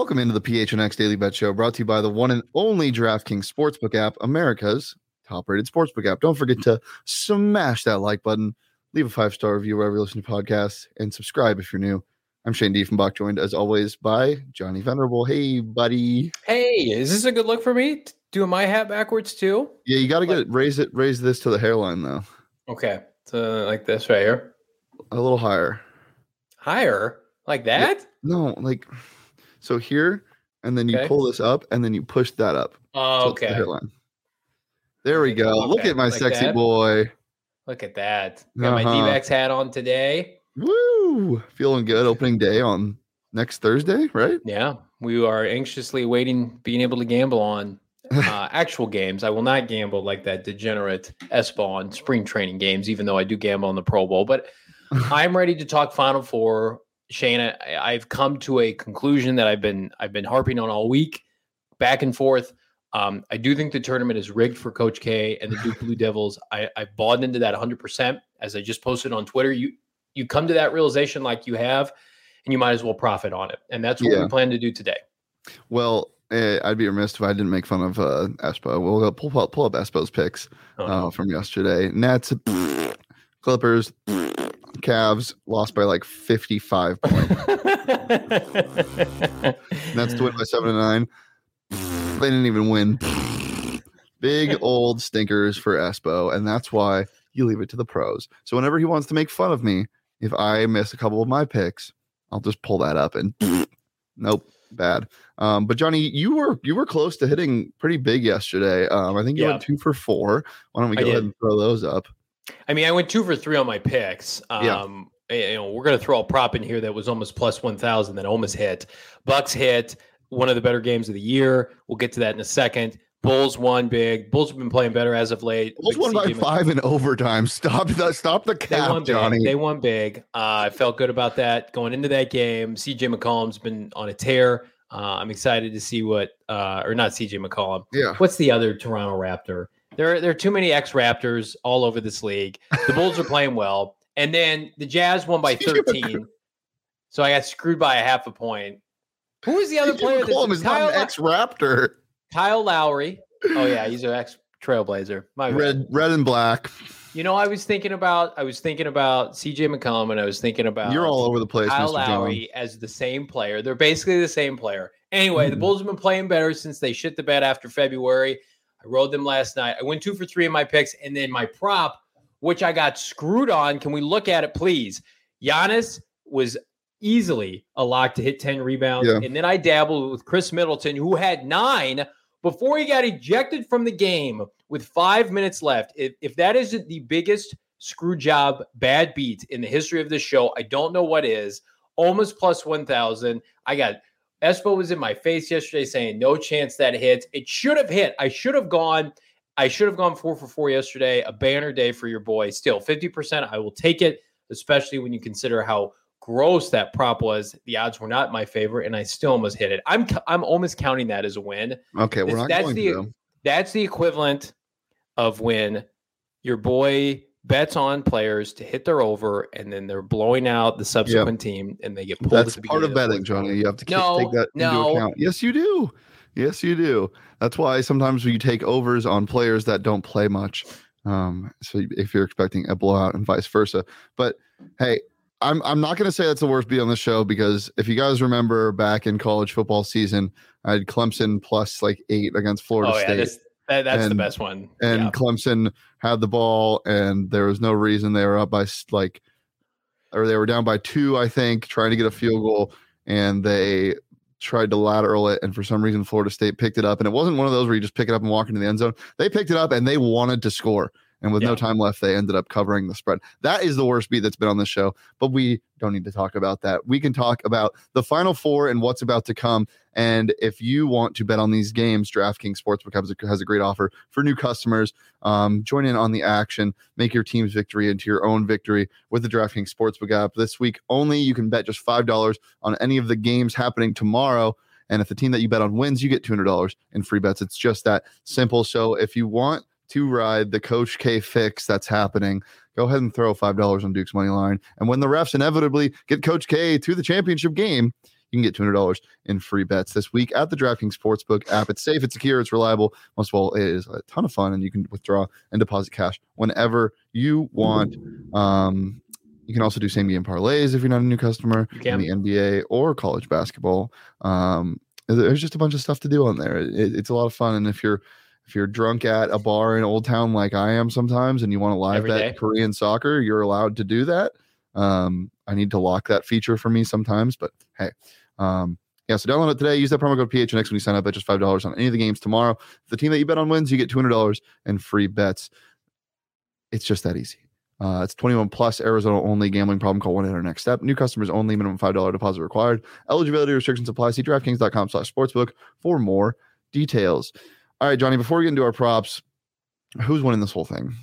Welcome into the PHNX Daily Bet Show, brought to you by the one and only DraftKings Sportsbook app, America's top-rated sportsbook app. Don't forget to smash that like button, leave a 5-star review wherever you listen to podcasts, and subscribe if you're new. I'm Shane Diefenbach, joined as always by Johnny Venerable. Hey, buddy. Hey, is this a good look for me? Doing my hat backwards too? Yeah, you got to get it. Raise this to the hairline though. Okay, so like this right here. A little higher. Higher, like that? Yeah, no, like so here, and then you pull this up, and then you push that up. Oh, okay. The hairline. There we go. Okay. Look at my like sexy that? Boy. Look at that. Got my D-backs hat on today. Woo! Feeling good. Opening day on next Thursday, right? Yeah. We are anxiously waiting, being able to gamble on actual games. I will not gamble like that degenerate S-ball on spring training games, even though I do gamble on the Pro Bowl. But I'm ready to talk Final Four. Shane, I've come to a conclusion that I've been harping on all week, back and forth. I do think the tournament is rigged for Coach K and the Duke Blue Devils. I bought into that 100%. As I just posted on Twitter, you come to that realization like you have, and you might as well profit on it. And that's what we plan to do today. Well, I'd be remiss if I didn't make fun of Espo. We'll go pull up Espo's picks from yesterday. Nets, Clippers, Cavs lost by like 55 points. Nets to win by 7-9. They didn't even win. Big old stinkers for Espo, and that's why you leave it to the pros. So whenever he wants to make fun of me, if I miss a couple of my picks, I'll just pull that up and nope, bad. But Johnny, you were close to hitting pretty big yesterday. I think you went 2 for 4. Why don't we go ahead and throw those up? I mean, I went 2 for 3 on my picks. You know, we're going to throw a prop in here that was almost plus 1,000 that almost hit. Bucks hit, one of the better games of the year. We'll get to that in a second. Bulls won big. Bulls have been playing better as of late. Bulls won by 5 in overtime. Stop the cap, Johnny. They won big. I felt good about that going into that game. CJ McCollum's been on a tear. I'm excited to see what, or not CJ McCollum. Yeah. What's the other Toronto Raptor? There are too many ex-Raptors all over this league. The Bulls are playing well. And then the Jazz won by 13. So I got screwed by a half a point. Who is the other player? McCollum is not an ex-Raptor. Kyle Lowry. Oh, yeah, he's an ex-Trailblazer. Red and black. You know, I was thinking about CJ McCollum, and I was thinking about you're all over the place, Kyle Mr. Lowry John. as the same player. They're basically the same player. Anyway, the Bulls have been playing better since they shit the bed after February. I rode them last night. I went 2 for 3 in my picks, and then my prop, which I got screwed on. Can we look at it, please? Giannis was easily a lock to hit 10 rebounds, and then I dabbled with Chris Middleton, who had 9 before he got ejected from the game with 5 minutes left. If that isn't the biggest screw job bad beat in the history of this show, I don't know what is. Almost plus 1,000. Espo was in my face yesterday saying no chance that hits. It should have hit. I should have gone 4 for 4 yesterday. A banner day for your boy. Still 50%. I will take it, especially when you consider how gross that prop was. The odds were not my favor, and I still almost hit it. I'm almost counting that as a win. Okay, that's the equivalent of when your boy bets on players to hit their over, and then they're blowing out the subsequent team, and they get pulled. That's part of betting, Johnny. You have to take that into account. Yes, you do. Yes, you do. That's why sometimes you take overs on players that don't play much. So if you're expecting a blowout and vice versa, but hey. I'm not going to say that's the worst beat on the show, because if you guys remember back in college football season, I had Clemson plus like 8 against Florida State. That's the best one. And Clemson had the ball, and there was no reason they were up by they were down by 2, I think, trying to get a field goal, and they tried to lateral it, and for some reason Florida State picked it up, and it wasn't one of those where you just pick it up and walk into the end zone. They picked it up and they wanted to score. And with no time left, they ended up covering the spread. That is the worst beat that's been on this show, but we don't need to talk about that. We can talk about the Final Four and what's about to come. And if you want to bet on these games, DraftKings Sportsbook has a great offer for new customers. Join in on the action. Make your team's victory into your own victory with the DraftKings Sportsbook app. This week only, you can bet just $5 on any of the games happening tomorrow. And if the team that you bet on wins, you get $200 in free bets. It's just that simple. So if you want to ride the Coach K fix that's happening, go ahead and throw $5 on Duke's money line. And when the refs inevitably get Coach K to the championship game, you can get $200 in free bets this week at the DraftKings Sportsbook app. It's safe, it's secure, it's reliable. Most of all, it is a ton of fun, and you can withdraw and deposit cash whenever you want. You can also do same game parlays if you're not a new customer in the NBA or college basketball. There's just a bunch of stuff to do on there. It's a lot of fun. And if you're drunk at a bar in Old Town like I am sometimes, and you want to live bet Korean soccer, you're allowed to do that. I need to lock that feature for me sometimes, but hey, yeah. So download it today. Use that promo code PHNX when you sign up at just $5 on any of the games tomorrow. If the team that you bet on wins, you get $200 in free bets. It's just that easy. It's 21 plus, Arizona only. Gambling problem? Call 1-800-NEXT-STEP. New customers only. Minimum $5 deposit required. Eligibility restrictions apply. See DraftKings.com/sportsbook for more details. All right, Johnny. Before we get into our props, who's winning this whole thing?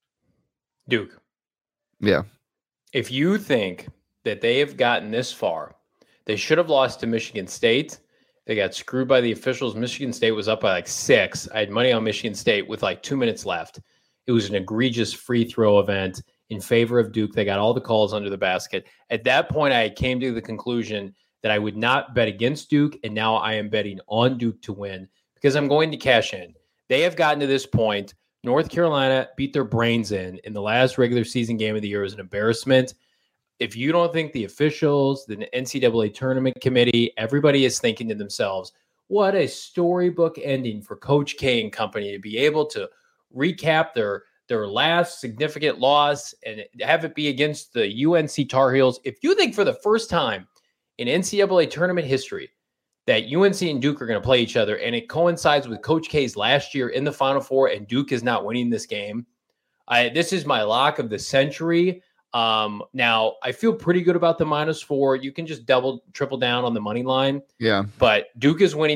Duke. Yeah. If you think that they have gotten this far, they should have lost to Michigan State. They got screwed by the officials. Michigan State was up by like 6. I had money on Michigan State with like 2 minutes left. It was an egregious free throw event in favor of Duke. They got all the calls under the basket. At that point, I came to the conclusion that I would not bet against Duke, and now I am betting on Duke to win because I'm going to cash in. They have gotten to this point. North Carolina beat their brains in the last regular season game of the year. It was an embarrassment. If you don't think the officials, the NCAA tournament committee, everybody is thinking to themselves, what a storybook ending for Coach K and company to be able to recap their last significant loss and have it be against the UNC Tar Heels. If you think for the first time in NCAA tournament history that UNC and Duke are going to play each other, and it coincides with Coach K's last year in the Final Four, and Duke is not winning this game, this is my lock of the century. Now, I feel pretty good about the -4. You can just triple down on the money line. Yeah. But Duke is winning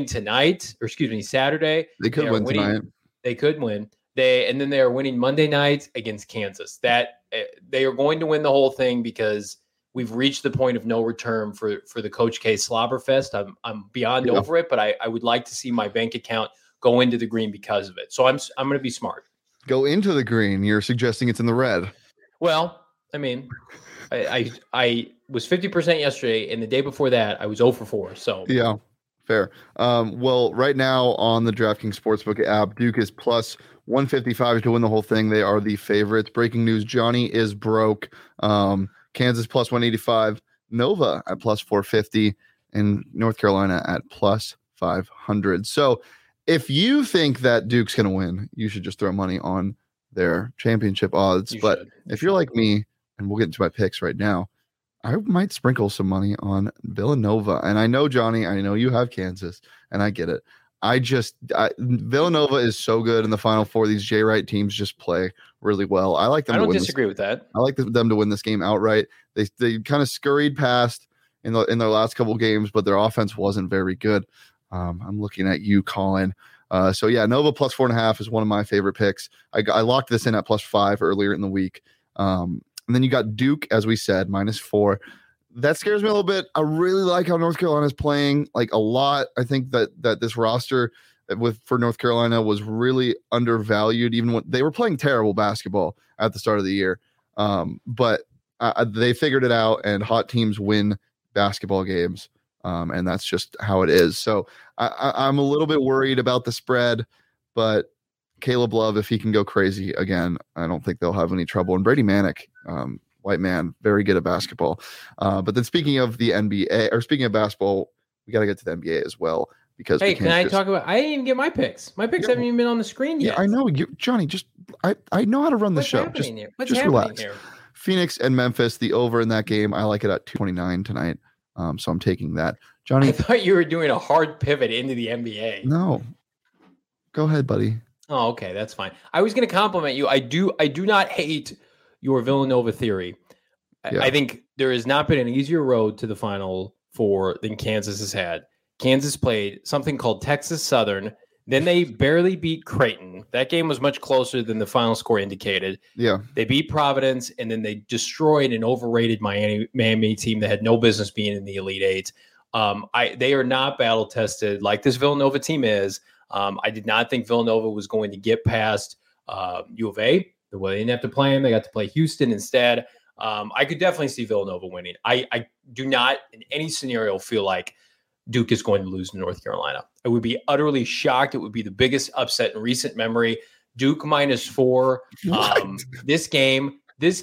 Saturday. They could win tonight. They could win. And then they are winning Monday night against Kansas. That they are going to win the whole thing because we've reached the point of no return for the Coach K Slobberfest. I'm beyond over it, but I would like to see my bank account go into the green because of it. So I'm going to be smart. Go into the green. You're suggesting it's in the red. Well, I mean, I was 50% yesterday, and the day before that I was 0 for 4. So yeah, fair. Well, right now on the DraftKings Sportsbook app, Duke is plus 155 to win the whole thing. They are the favorites. Breaking news: Johnny is broke. Kansas plus 185, Nova at plus 450, and North Carolina at plus 500. So if you think that Duke's going to win, you should just throw money on their championship odds. If you're like me, and we'll get into my picks right now, I might sprinkle some money on Villanova. And I know, Johnny, I know you have Kansas, and I get it. Villanova is so good in the Final Four. These Jay Wright teams just play really well. I like them. I don't disagree with that. I like them to win this game outright. They kind of scurried past in their last couple games, but their offense wasn't very good. I'm looking at you, Colin. So yeah, Nova plus 4.5 is one of my favorite picks. I locked this in at plus 5 earlier in the week. And then you got Duke, as we said, -4. That scares me a little bit. I really like how North Carolina is playing like a lot. I think that this roster for North Carolina was really undervalued, even when they were playing terrible basketball at the start of the year. But they figured it out, and hot teams win basketball games. And that's just how it is. So I'm a little bit worried about the spread, but Caleb Love, if he can go crazy again, I don't think they'll have any trouble. And Brady Manick, white man, very good at basketball. But then speaking of the NBA, or speaking of basketball, we got to get to the NBA as well. Because hey, can I talk about? I didn't even get my picks. My picks haven't even been on the screen yet. Yeah, I know, Johnny. I know how to run the show. What's happening relax. Here? Phoenix and Memphis, the over in that game. I like it at 229 tonight. So I'm taking that. Johnny, I thought you were doing a hard pivot into the NBA. No, go ahead, buddy. Oh, okay, that's fine. I was going to compliment you. I do not hate your Villanova theory. Yeah. I think there has not been an easier road to the Final Four than Kansas has had. Kansas played something called Texas Southern. Then they barely beat Creighton. That game was much closer than the final score indicated. Yeah. They beat Providence, and then they destroyed an overrated Miami team that had no business being in the Elite Eight. They are not battle-tested like this Villanova team is. I did not think Villanova was going to get past U of A. Well, they didn't have to play them. They got to play Houston instead. I could definitely see Villanova winning. I do not in any scenario feel like Duke is going to lose to North Carolina. I would be utterly shocked. It would be the biggest upset in recent memory. Duke -4. This game is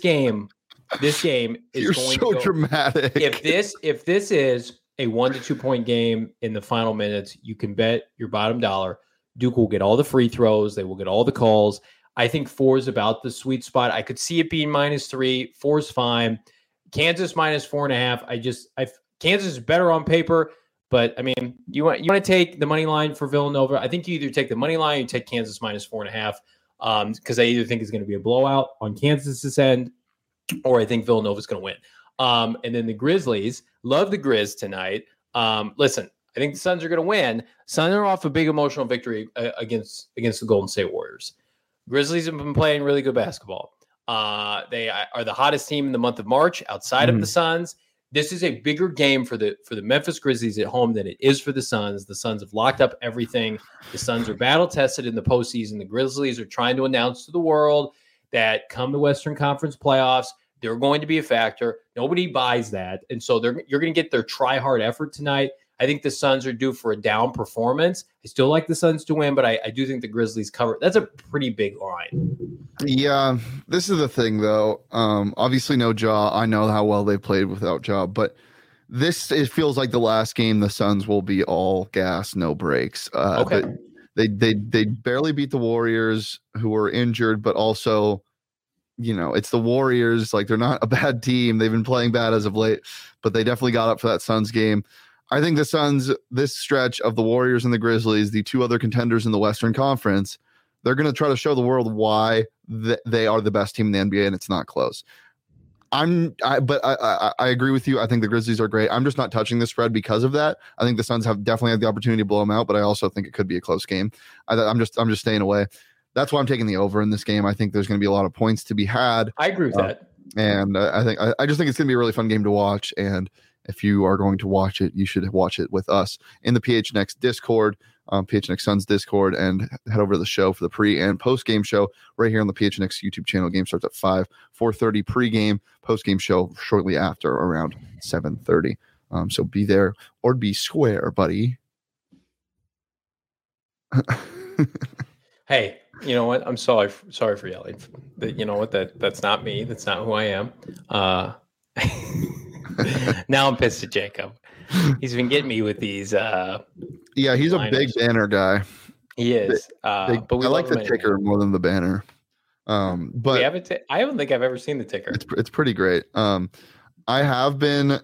You're going so to go, dramatic. If this is a 1 to 2 point game in the final minutes, you can bet your bottom dollar Duke will get all the free throws. They will get all the calls. I think 4 is about the sweet spot. I could see it being -3. 4 is fine. Kansas -4.5. Kansas is better on paper, but I mean, you want to take the money line for Villanova. I think you either take the money line or you take Kansas -4.5 because I either think it's going to be a blowout on Kansas's end, or I think Villanova is going to win. And then the Grizzlies, love the Grizz tonight. Listen, I think the Suns are going to win. Suns are off a big emotional victory against the Golden State Warriors. Grizzlies have been playing really good basketball. They are the hottest team in the month of March outside of the Suns. This is a bigger game for the Memphis Grizzlies at home than it is for the Suns. The Suns have locked up everything. The Suns are battle tested in the postseason. The Grizzlies are trying to announce to the world that come the Western Conference playoffs, they're going to be a factor. Nobody buys that. And so you're going to get their try-hard effort tonight. I think the Suns are due for a down performance. I still like the Suns to win, but I do think the Grizzlies cover. That's a pretty big line. Yeah, this is the thing, though. Obviously, no Ja. I know how well they played without Ja, but it feels like the last game the Suns will be all gas, no breaks. Okay. They barely beat the Warriors, who were injured, but also, it's the Warriors. Like, they're not a bad team. They've been playing bad as of late, but they definitely got up for that Suns game. I think the Suns, this stretch of the Warriors and the Grizzlies, the two other contenders in the Western Conference, they're going to try to show the world why they are the best team in the NBA, and it's not close. But I agree with you. I think the Grizzlies are great. I'm just not touching the spread because of that. I think the Suns definitely have the opportunity to blow them out, but I also think it could be a close game. I'm just staying away. That's why I'm taking the over in this game. I think there's going to be a lot of points to be had. I agree with that. And I just think it's going to be a really fun game to watch. And if you are going to watch it, you should watch it with us in the PHNX Discord, PHNX Suns Discord, and head over to the show for the pre and post game show right here on the PHNX YouTube channel. Game starts at 4:30 pregame, post game show shortly after around 7:30. So be there or be square, buddy. Hey, you know what? I'm sorry for yelling. You know what? That's not me. That's not who I am. Now I'm pissed at Jacob. He's been getting me with these. Yeah, he's a big banner guy. He is. But I like the ticker more than the banner. But I don't think I've ever seen the ticker. It's pretty great. I have been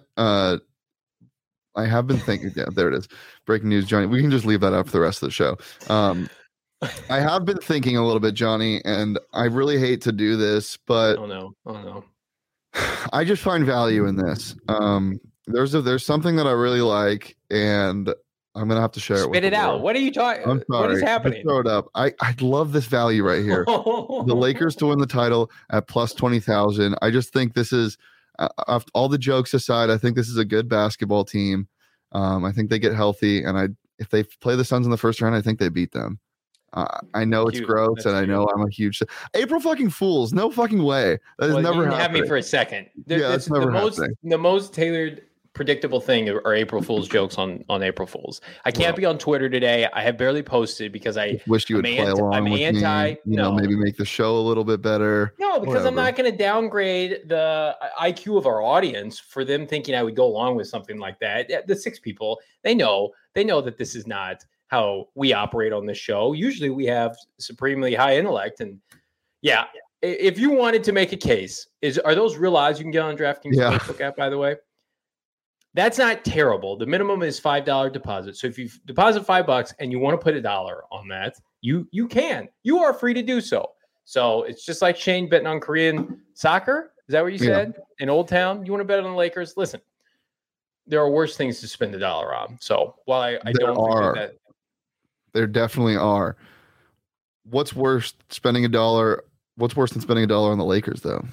thinking. Yeah, there it is. Breaking news, Johnny. We can just leave that up for the rest of the show. I have been thinking a little bit, Johnny, and I really hate to do this, but oh no. I just find value in this. There's something that I really like, and I'm gonna have to share it. Spit it out. What are you talking? I'm sorry. What is happening? Just throw it up. I love this value right here. The Lakers to win the title at plus 20,000. I just think this is, all the jokes aside, I think this is a good basketball team. I think they get healthy, and if they play the Suns in the first round, I think they beat them. I know it's gross, and I know I'm a huge April fucking Fools. No fucking way. That has never happened. Have me for a second. That's never happening. The most tailored, predictable thing are April Fools jokes on April Fools. I can't be on Twitter today. I have barely posted because I wish you would play along with me. Maybe make the show a little bit better. No, because I'm not going to downgrade the IQ of our audience for them thinking I would go along with something like that. The 6 people, they know that this is not how we operate on this show. Usually we have supremely high intellect. And yeah, if you wanted to make a case, are those real odds you can get on DraftKings Sportsbook app, by the way? That's not terrible. The minimum is $5 deposit. So if you deposit $5 and you want to put $1 on that, you can. You are free to do so. So it's just like Shane betting on Korean soccer. Is that what you said? In Old Town? You want to bet on the Lakers? Listen, there are worse things to spend $1 on. So while I don't think that there definitely are. What's worse than spending $1 on the Lakers, though?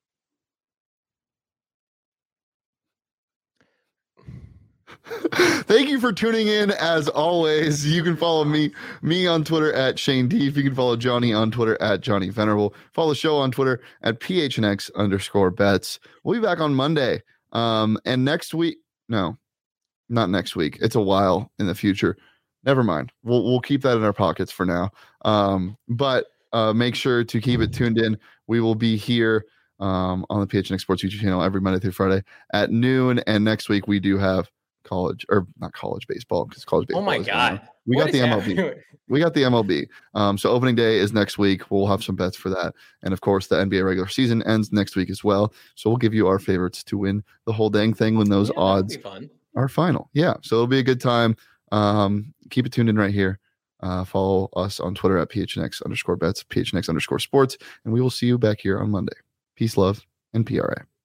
Thank you for tuning in. As always, you can follow me on Twitter at Shane Deef. You can follow Johnny on Twitter at Johnny Venerable. Follow the show on Twitter at PHNX_bets. We'll be back on Monday. And next week, no. Not next week. It's a while in the future. Never mind. We'll keep that in our pockets for now. But make sure to keep it tuned in. We will be here on the PHNX Sports YouTube channel every Monday through Friday at noon. And next week we do have not college baseball, because college baseball. Oh my God. We got the MLB. We got the MLB. So opening day is next week. We'll have some bets for that. And of course, the NBA regular season ends next week as well. So we'll give you our favorites to win the whole dang thing when those odds are final. Yeah. So it'll be a good time. Keep it tuned in right here. Follow us on Twitter at PHNX_bets, PHNX_sports, and we will see you back here on Monday. Peace, love, and PRA.